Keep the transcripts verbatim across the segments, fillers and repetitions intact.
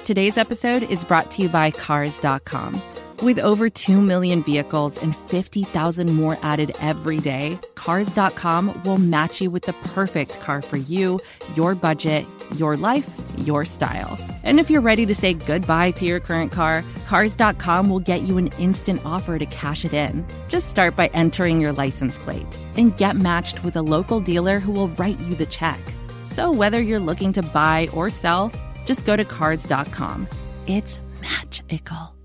Today's episode is brought to you by Cars dot com. With over two million vehicles and fifty thousand more added every day, Cars dot com will match you with the perfect car for you, your budget, your life, your style. And if you're ready to say goodbye to your current car, Cars dot com will get you an instant offer to cash it in. Just start by entering your license plate and get matched with a local dealer who will write you the check. So whether you're looking to buy or sell, just go to Cars dot com. It's magical.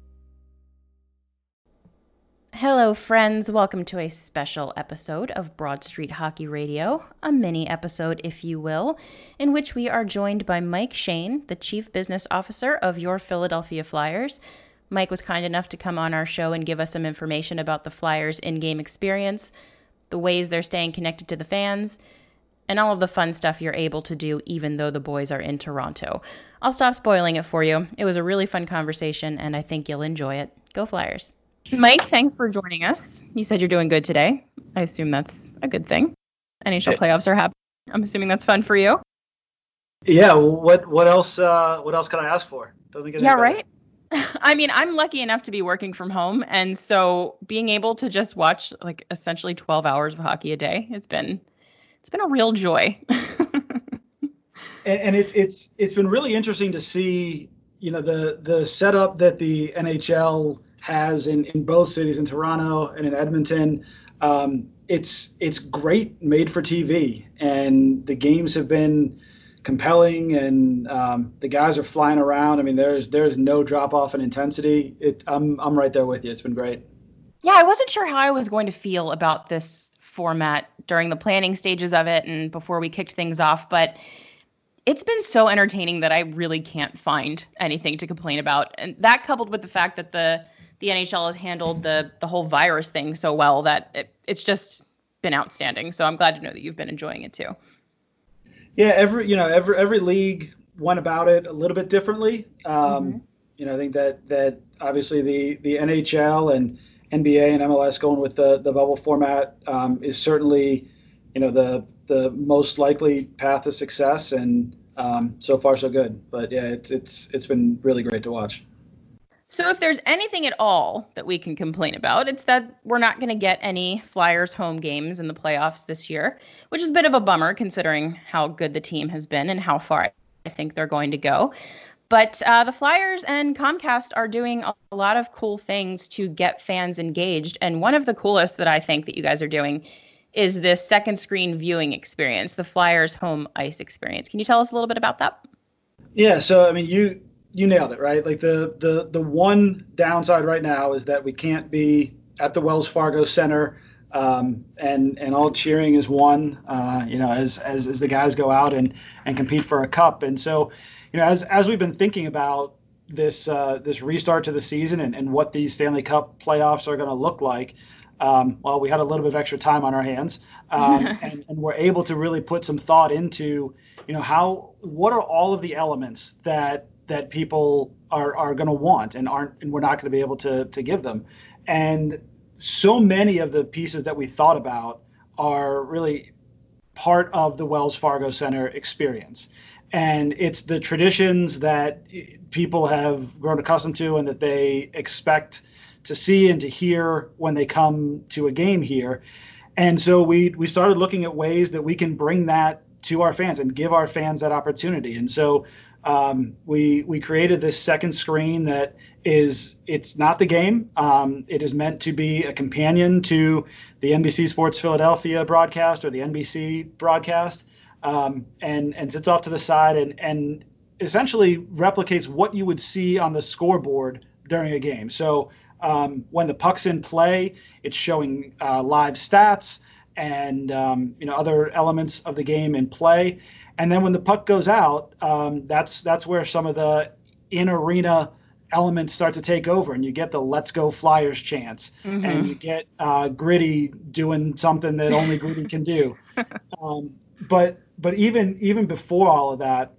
Hello, friends. Welcome to a special episode of Broad Street Hockey Radio, a mini episode, if you will, in which we are joined by Mike Schoen, the Chief Business Officer of your Philadelphia Flyers. Mike was kind enough to come on our show and give us some information about the Flyers' in-game experience, the ways they're staying connected to the fans, and all of the fun stuff you're able to do even though the boys are in Toronto. I'll stop spoiling it for you. It was a really fun conversation, and I think you'll enjoy it. Go Flyers. Mike, thanks for joining us. You said you're doing good today. I assume that's a good thing. N H L playoffs are happening. I'm assuming that's fun for you. Yeah. What What else? Uh, what else can I ask for? Doesn't get yeah, any right. I mean, I'm lucky enough to be working from home, and so being able to just watch like essentially twelve hours of hockey a day has been it's been a real joy. and and it, it's it's been really interesting to see, you know, the the setup that the N H L has in, in both cities, in Toronto and in Edmonton. Um, it's it's great made for T V, and the games have been compelling, and um, the guys are flying around. I mean, there's there's no drop off in intensity. It, I'm I'm right there with you. It's been great. Yeah, I wasn't sure how I was going to feel about this format during the planning stages of it and before we kicked things off, but it's been so entertaining that I really can't find anything to complain about. And that coupled with the fact that the the N H L has handled the the whole virus thing so well that it, it's just been outstanding. So I'm glad to know that you've been enjoying it too. Yeah, every you know every every league went about it a little bit differently. Um, mm-hmm. You know, I think that that obviously the the N H L and N B A and M L S going with the the bubble format um, is certainly, you know, the the most likely path to success, and um, so far so good. But yeah, it's it's it's been really great to watch. So if there's anything at all that we can complain about, it's that we're not going to get any Flyers home games in the playoffs this year, which is a bit of a bummer considering how good the team has been and how far I think they're going to go. But uh, the Flyers and Comcast are doing a lot of cool things to get fans engaged. And one of the coolest that I think that you guys are doing is this second screen viewing experience, the Flyers home ice experience. Can you tell us a little bit about that? Yeah, so I mean, you you nailed it, right? Like the the the one downside right now is that we can't be at the Wells Fargo Center, um, and and all cheering is one, uh, you know, as, as as the guys go out and and compete for a cup. And so, you know, as as we've been thinking about this uh, this restart to the season and, and what these Stanley Cup playoffs are going to look like, um, well, we had a little bit of extra time on our hands, um, and, and we're able to really put some thought into, you know, how what are all of the elements that that people are, are going to want and aren't, and we're not going to be able to to give them. And so many of the pieces that we thought about are really part of the Wells Fargo Center experience. And it's the traditions that people have grown accustomed to and that they expect to see and to hear when they come to a game here. And so we we started looking at ways that we can bring that to our fans and give our fans that opportunity. And so Um, we we created this second screen that is, it's not the game. Um, it is meant to be a companion to the N B C Sports Philadelphia broadcast or the N B C broadcast, um, and and sits off to the side and and essentially replicates what you would see on the scoreboard during a game. So um, when the puck's in play, it's showing uh, live stats and um, you know other elements of the game in play. And then when the puck goes out, um, that's that's where some of the in-arena elements start to take over, and you get the "Let's Go Flyers" chants, mm-hmm. and you get uh, Gritty doing something that only Gritty can do. Um, but but even even before all of that,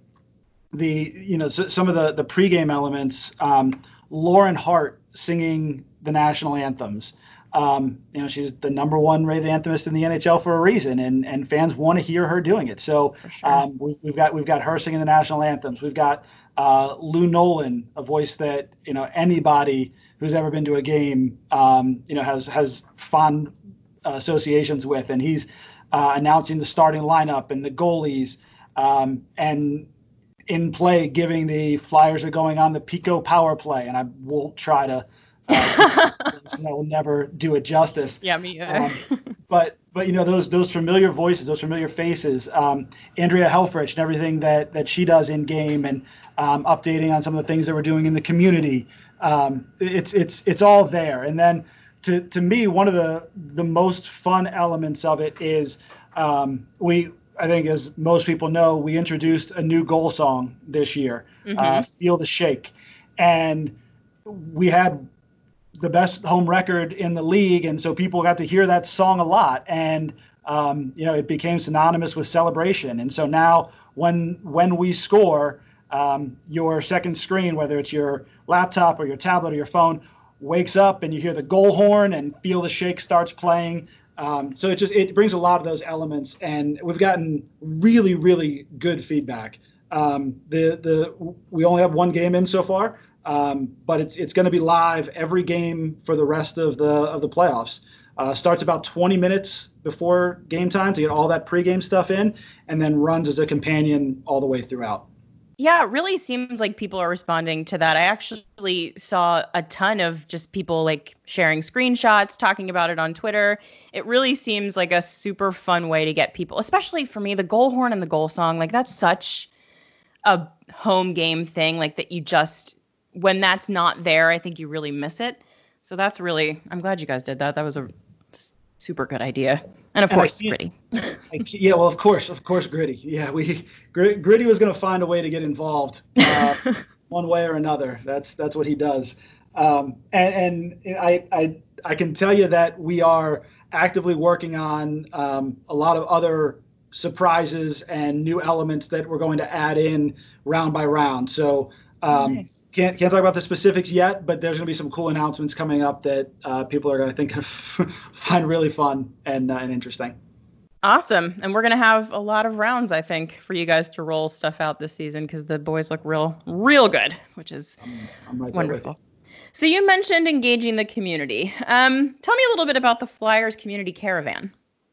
the you know so, some of the the pregame elements, um, Lauren Hart singing the national anthems, Um, you know, she's the number one rated anthemist in the N H L for a reason, and and fans want to hear her doing it. So sure. um, we, we've got we've got her singing the national anthems. We've got uh, Lou Nolan, a voice that you know anybody who's ever been to a game, um, you know, has has fond uh, associations with, and he's uh, announcing the starting lineup and the goalies, um, and in play giving the Flyers are going on the Pico power play, and I won't try to. Uh, I will never do it justice. Yeah, me either. um, but but you know those those familiar voices, those familiar faces. Um, Andrea Helfrich and everything that that she does in game, and um, updating on some of the things that we're doing in the community. Um, it's it's it's all there. And then to to me, one of the the most fun elements of it is um, we. I think, as most people know, we introduced a new goal song this year, mm-hmm. uh, "Feel the Shake," and we had the best home record in the league, and so people got to hear that song a lot, and um, you know it became synonymous with celebration. And so now, when when we score, um, your second screen, whether it's your laptop or your tablet or your phone, wakes up and you hear the goal horn, and "Feel the Shake" starts playing. Um, so it just it brings a lot of those elements, and we've gotten really really good feedback. Um, the the we only have one game in so far. Um, but it's it's going to be live every game for the rest of the of the playoffs. Uh, starts about twenty minutes before game time to get all that pregame stuff in, and then runs as a companion all the way throughout. Yeah, it really seems like people are responding to that. I actually saw a ton of just people like sharing screenshots, talking about it on Twitter. It really seems like a super fun way to get people, especially for me, the goal horn and the goal song. Like that's such a home game thing, like that you just. When that's not there, I think you really miss it. So that's really, I'm glad you guys did that. That was a super good idea. And of and course, Gritty. I, yeah, well, of course, of course, Gritty. Yeah, we Gritty was going to find a way to get involved uh, one way or another. That's that's what he does. Um, and and I, I I can tell you that we are actively working on um, a lot of other surprises and new elements that we're going to add in round by round. So. Um, nice. Can't can't talk about the specifics yet, but there's going to be some cool announcements coming up that uh, people are going to think of find really fun and uh, and interesting. Awesome, and we're going to have a lot of rounds, I think, for you guys to roll stuff out this season because the boys look real real good, which is I'm, I'm right wonderful. So you mentioned engaging the community. Um, tell me a little bit about the Flyers Community Caravan.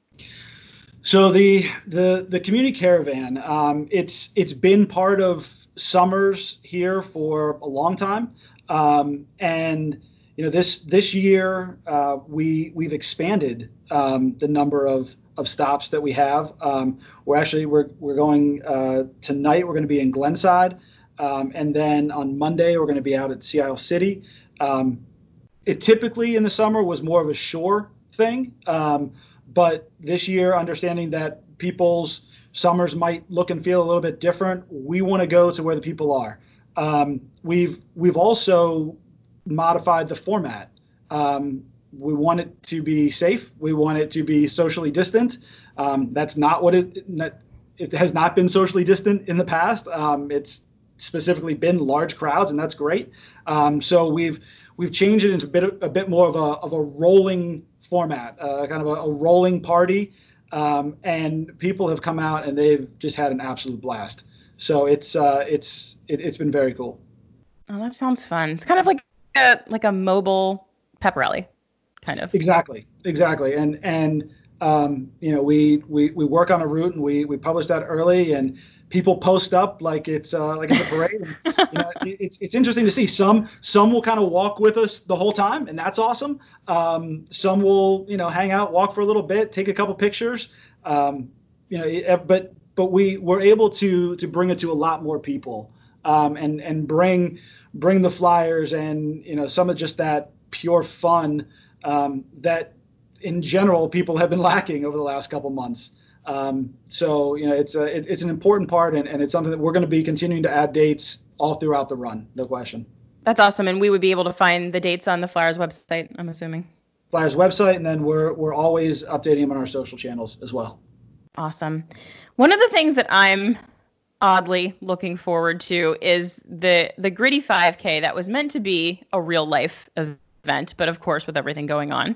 So the the the community caravan, um, it's it's been part of summers here for a long time, um, and you know this this year uh, we we've expanded um, the number of of stops that we have. Um, we're actually we're we're going uh, tonight. We're going to be in Glenside, um, and then on Monday we're going to be out at Sea Isle City. Um, it typically in the summer was more of a shore thing. Um, But this year, understanding that people's summers might look and feel a little bit different, we want to go to where the people are. Um, we've we've also modified the format. Um, we want it to be safe. We want it to be socially distant. Um, that's not what it it has not been socially distant in the past. Um, it's specifically been large crowds, and that's great. Um, so we've we've changed it into a bit a bit more of a of a rolling format, uh, kind of a, a rolling party, um, and people have come out and they've just had an absolute blast. So it's uh, it's it, it's been very cool. Oh, that sounds fun. It's kind of like a like a mobile pep rally, kind of. Exactly, exactly. And and um, you know we, we we work on a route and we we publish that early and people post up like it's uh, like it's a parade. And, you know, it's it's interesting to see. Some some will kind of walk with us the whole time, and that's awesome. Um, some will you know hang out, walk for a little bit, take a couple pictures. Um, you know, but but we were able to to bring it to a lot more people, um, and and bring bring the Flyers and you know some of just that pure fun um, that in general people have been lacking over the last couple months. Um, so, you know, it's a, it, it's an important part and, and it's something that we're going to be continuing to add dates all throughout the run. No question. That's awesome. And we would be able to find the dates on the Flyers website, I'm assuming. Flyers website. And then we're, we're always updating them on our social channels as well. Awesome. One of the things that I'm oddly looking forward to is the, the Gritty five K that was meant to be a real life event. But of course, with everything going on,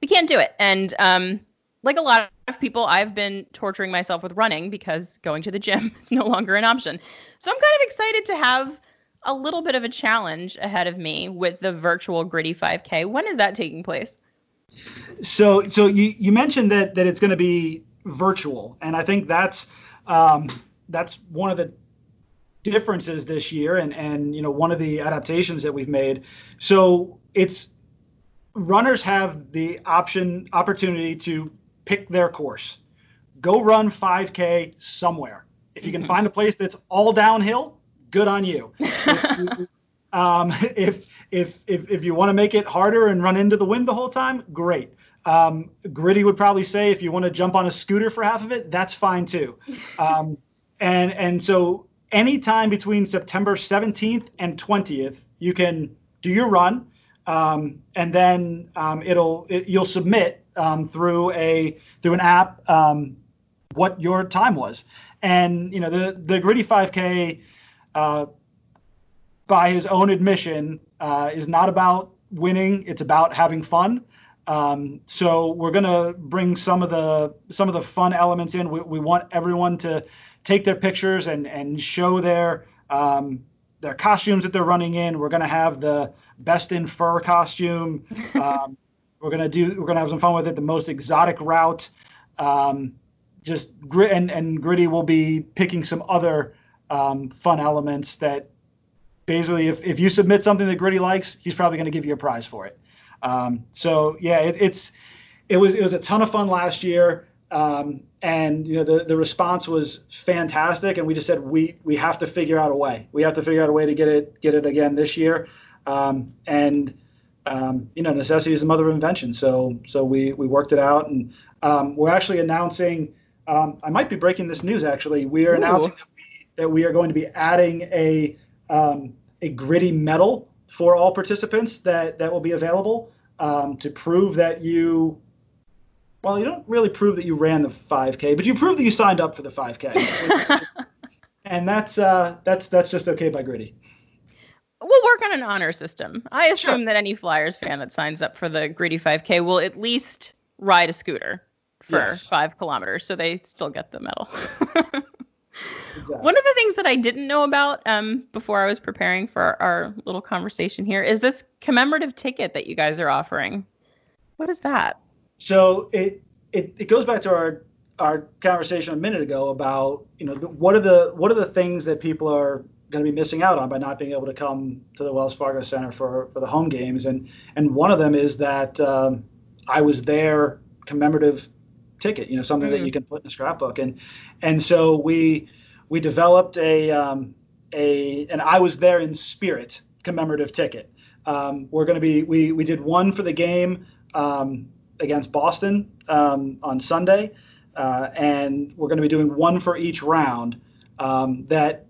we can't do it. And um, like a lot of people, I've been torturing myself with running because going to the gym is no longer an option. So I'm kind of excited to have a little bit of a challenge ahead of me with the virtual Gritty five K. When is that taking place? So, so you, you mentioned that that it's going to be virtual, and I think that's um, that's one of the differences this year, and and you know one of the adaptations that we've made. So it's runners have the option opportunity to pick their course, go run five K somewhere. If you can find a place that's all downhill, good on you. If you um, if If, if if you want to make it harder and run into the wind the whole time, great. Um, Gritty would probably say if you want to jump on a scooter for half of it, that's fine too. Um, and and so anytime between September seventeenth and twentieth, you can do your run, um, and then um, it'll it, you'll submit um, through a through an app um, what your time was. And you know the the Gritty five K, uh, by his own admission, uh, is not about winning. It's about having fun. Um, so we're going to bring some of the some of the fun elements in. We, we want everyone to take their pictures and and show their um, their costumes that they're running in. We're going to have the best in fur costume. Um, we're going to do we're going to have some fun with it. The most exotic route. Um, just grit and, and Gritty will be picking some other um, fun elements that. Basically, if, if you submit something that Gritty likes, he's probably going to give you a prize for it. Um, so yeah, it, it's it was it was a ton of fun last year, um, and you know the, the response was fantastic. And we just said we we have to figure out a way. We have to figure out a way to get it get it again this year. Um, and um, you know necessity is the mother of invention. So so we we worked it out, and um, we're actually announcing. Um, I might be breaking this news actually. We are Ooh. announcing that we, that we are going to be adding a. Um, a Gritty medal for all participants that, that will be available um, to prove that you, well, you don't really prove that you ran the five K, but you prove that you signed up for the five K. And that's uh, that's that's just okay by Gritty. We'll work on an honor system. I assume Sure. that any Flyers fan that signs up for the Gritty five K will at least ride a scooter for Yes. five kilometers, so they still get the medal. Exactly. One of the things that I didn't know about um, before I was preparing for our, our little conversation here is this commemorative ticket that you guys are offering. What is that? So it, it it goes back to our our conversation a minute ago about you know the, what are the what are the things that people are going to be missing out on by not being able to come to the Wells Fargo Center for, for the home games, and and one of them is that um, I was there commemorative ticket, you know, something mm. that you can put in a scrapbook, and and so we we developed a um, a and I was there in spirit commemorative ticket. Um, we're going to be we we did one for the game um, against Boston um, on Sunday, uh, and we're going to be doing one for each round. Um, that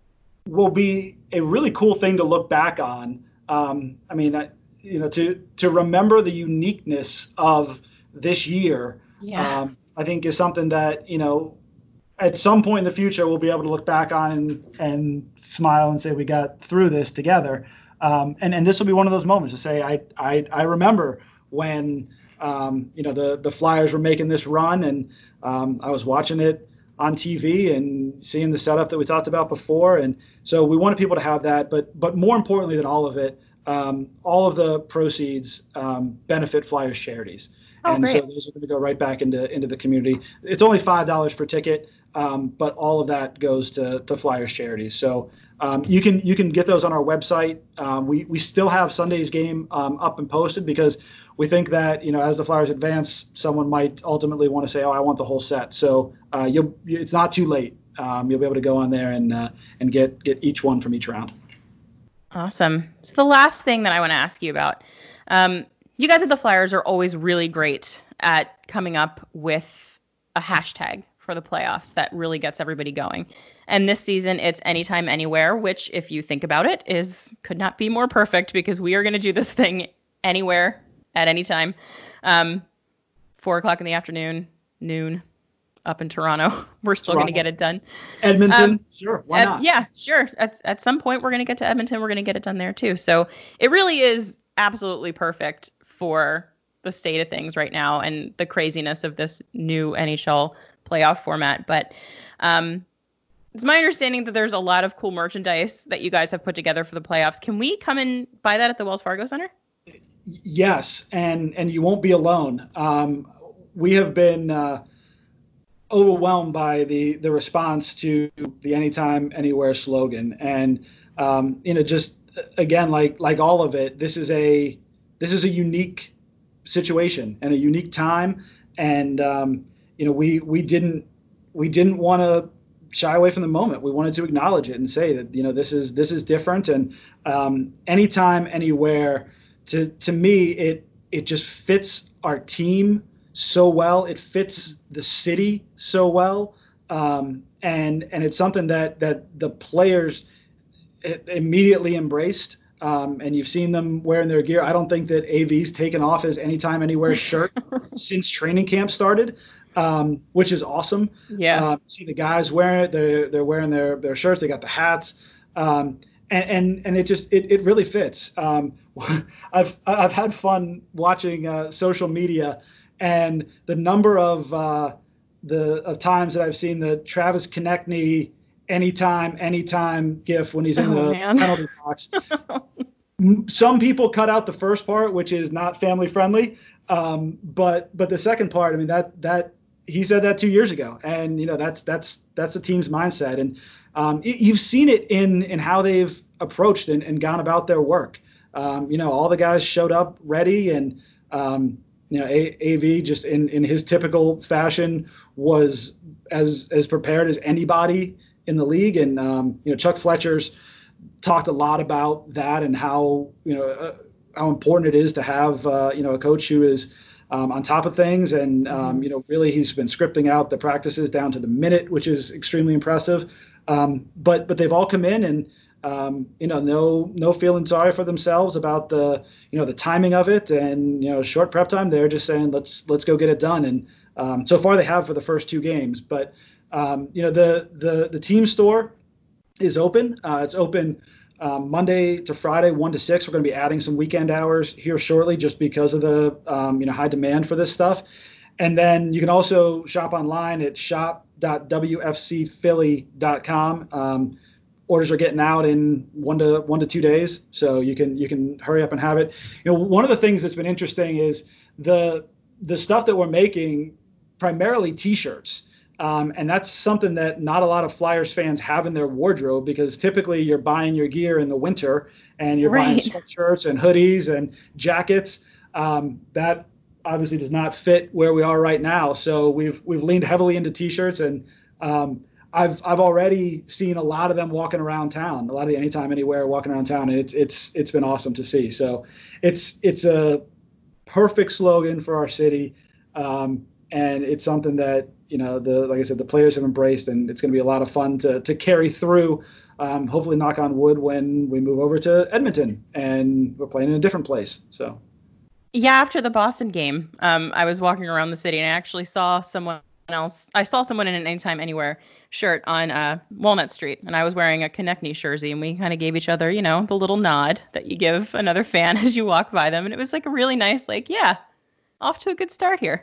will be a really cool thing to look back on. Um, I mean, I, you know, to to remember the uniqueness of this year. Yeah. Um, I think is something that, you know, at some point in the future, we'll be able to look back on and, and smile and say we got through this together. Um, and, and this will be one of those moments to say, I, I, I remember when, um, you know, the, the Flyers were making this run, and um, I was watching it on T V and seeing the setup that we talked about before. And so we wanted people to have that. But, but more importantly than all of it, um, all of the proceeds um, benefit Flyers charities. Oh, and great. so those are going to go right back into into the community. It's only five dollars per ticket, um, but all of that goes to, to Flyers charities. So um, you can you can get those on our website. Um, we we still have Sunday's game um, up and posted because we think that, you know, as the Flyers advance, someone might ultimately want to say, oh, I want the whole set. So uh, you'll it's not too late. Um, you'll be able to go on there and uh, and get get each one from each round. Awesome. So the last thing that I want to ask you about. Um, You guys at the Flyers are always really great at coming up with a hashtag for the playoffs that really gets everybody going. And this season, it's anytime, anywhere, which, if you think about it, is could not be more perfect because we are going to do this thing anywhere at any time. Um, four o'clock in the afternoon, noon, up in Toronto. We're still going to get it done. Edmonton, um, sure, why at, not? Yeah, sure. At, at some point, we're going to get to Edmonton. We're going to get it done there, too. So it really is absolutely perfect for the state of things right now and the craziness of this new N H L playoff format. But um, it's my understanding that there's a lot of cool merchandise that you guys have put together for the playoffs. Can we come and buy that at the Wells Fargo Center? Yes, and and you won't be alone. Um, we have been uh, overwhelmed by the the response to the Anytime, Anywhere slogan, and um, you know, just again, like like all of it, this is a this is a unique situation and a unique time, and um, you know, we we didn't we didn't want to shy away from the moment. We wanted to acknowledge it and say that, you know, this is this is different, and um, anytime, anywhere. To to me, it it just fits our team so well. It fits the city so well, um, and and it's something that that the players immediately embraced. Um, and you've seen them wearing their gear. I don't think that A V's taken off his Anytime, Anywhere shirt since training camp started, um, which is awesome. Yeah, uh, see the guys wearing it. They're they're wearing their their shirts. They got the hats. Um, And, and and it just it, it really fits. Um, I've I've had fun watching uh, social media, and the number of uh, the of times that I've seen the Travis Konechny anytime anytime gif when he's in oh, the man. penalty box. Some people cut out the first part, which is not family friendly, um, but but the second part, I mean, that that he said that two years ago, and you know that's that's that's the team's mindset. And Um, you've seen it in in how they've approached and, and gone about their work. Um, you know, all the guys showed up ready, and um, you know, A- AV just in, in his typical fashion was as as prepared as anybody in the league. And um, you know, Chuck Fletcher's talked a lot about that and how you know uh, how important it is to have uh, you know a coach who is Um, on top of things, and um, you know, really, he's been scripting out the practices down to the minute, which is extremely impressive. Um, but but they've all come in, and um, you know, no no feeling sorry for themselves about the you know the timing of it, and you know, short prep time. They're just saying let's let's go get it done, and um, so far they have for the first two games. But um, you know, the the the team store is open. Uh, it's open. Um, Monday to Friday, one to six. We're going to be adding some weekend hours here shortly, just because of the um, you know high demand for this stuff. And then you can also shop online at shop dot w f c philly dot com. Um, orders are getting out in one to one to two days, so you can you can hurry up and have it. You know, one of the things that's been interesting is the the stuff that we're making, primarily T-shirts. Um, and that's something that not a lot of Flyers fans have in their wardrobe, because typically you're buying your gear in the winter and you're right. buying sweatshirts and hoodies and jackets. Um, that obviously does not fit where we are right now. So we've we've leaned heavily into T-shirts, and um, I've I've already seen a lot of them walking around town, a lot of the Anytime, Anywhere walking around town, and it's it's it's been awesome to see. So it's it's a perfect slogan for our city, um, and it's something that, you know, the like I said, the players have embraced, and it's going to be a lot of fun to to carry through. Um, hopefully, knock on wood, when we move over to Edmonton and we're playing in a different place. So, yeah, after the Boston game, um, I was walking around the city and I actually saw someone else. I saw someone in an Anytime, Anywhere shirt on uh, Walnut Street, and I was wearing a Konechny jersey, and we kind of gave each other, you know, the little nod that you give another fan as you walk by them, and it was like a really nice, like, yeah, off to a good start here.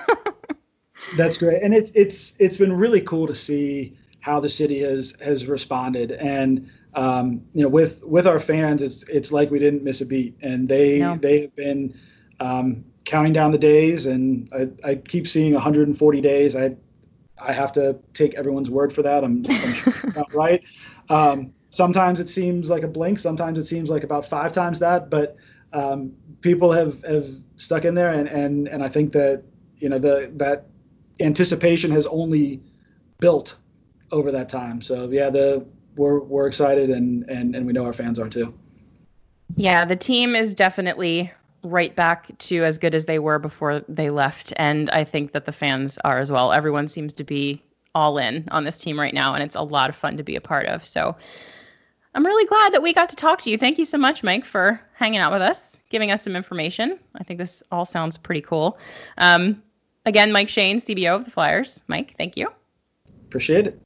That's great, and it's it's it's been really cool to see how the city has has responded, and um, you know, with with our fans, it's it's like we didn't miss a beat, and they no. they have been um, counting down the days, and I, I keep seeing one hundred forty days. I I have to take everyone's word for that. I'm, I'm sure it's not right. Um, sometimes it seems like a blink. Sometimes it seems like about five times that, but um, people have have stuck in there, and and and I think that, you know, the that anticipation has only built over that time. So yeah, the we're we're excited, and and and we know our fans are too. Yeah, the team is definitely right back to as good as they were before they left, and I think that the fans are as well. Everyone seems to be all in on this team right now, and it's a lot of fun to be a part of. So I'm really glad that we got to talk to you. Thank you so much, Mike, for hanging out with us, giving us some information. I think this all sounds pretty cool. Um, Again, Mike Shane, C B O of the Flyers. Mike, thank you. Appreciate it.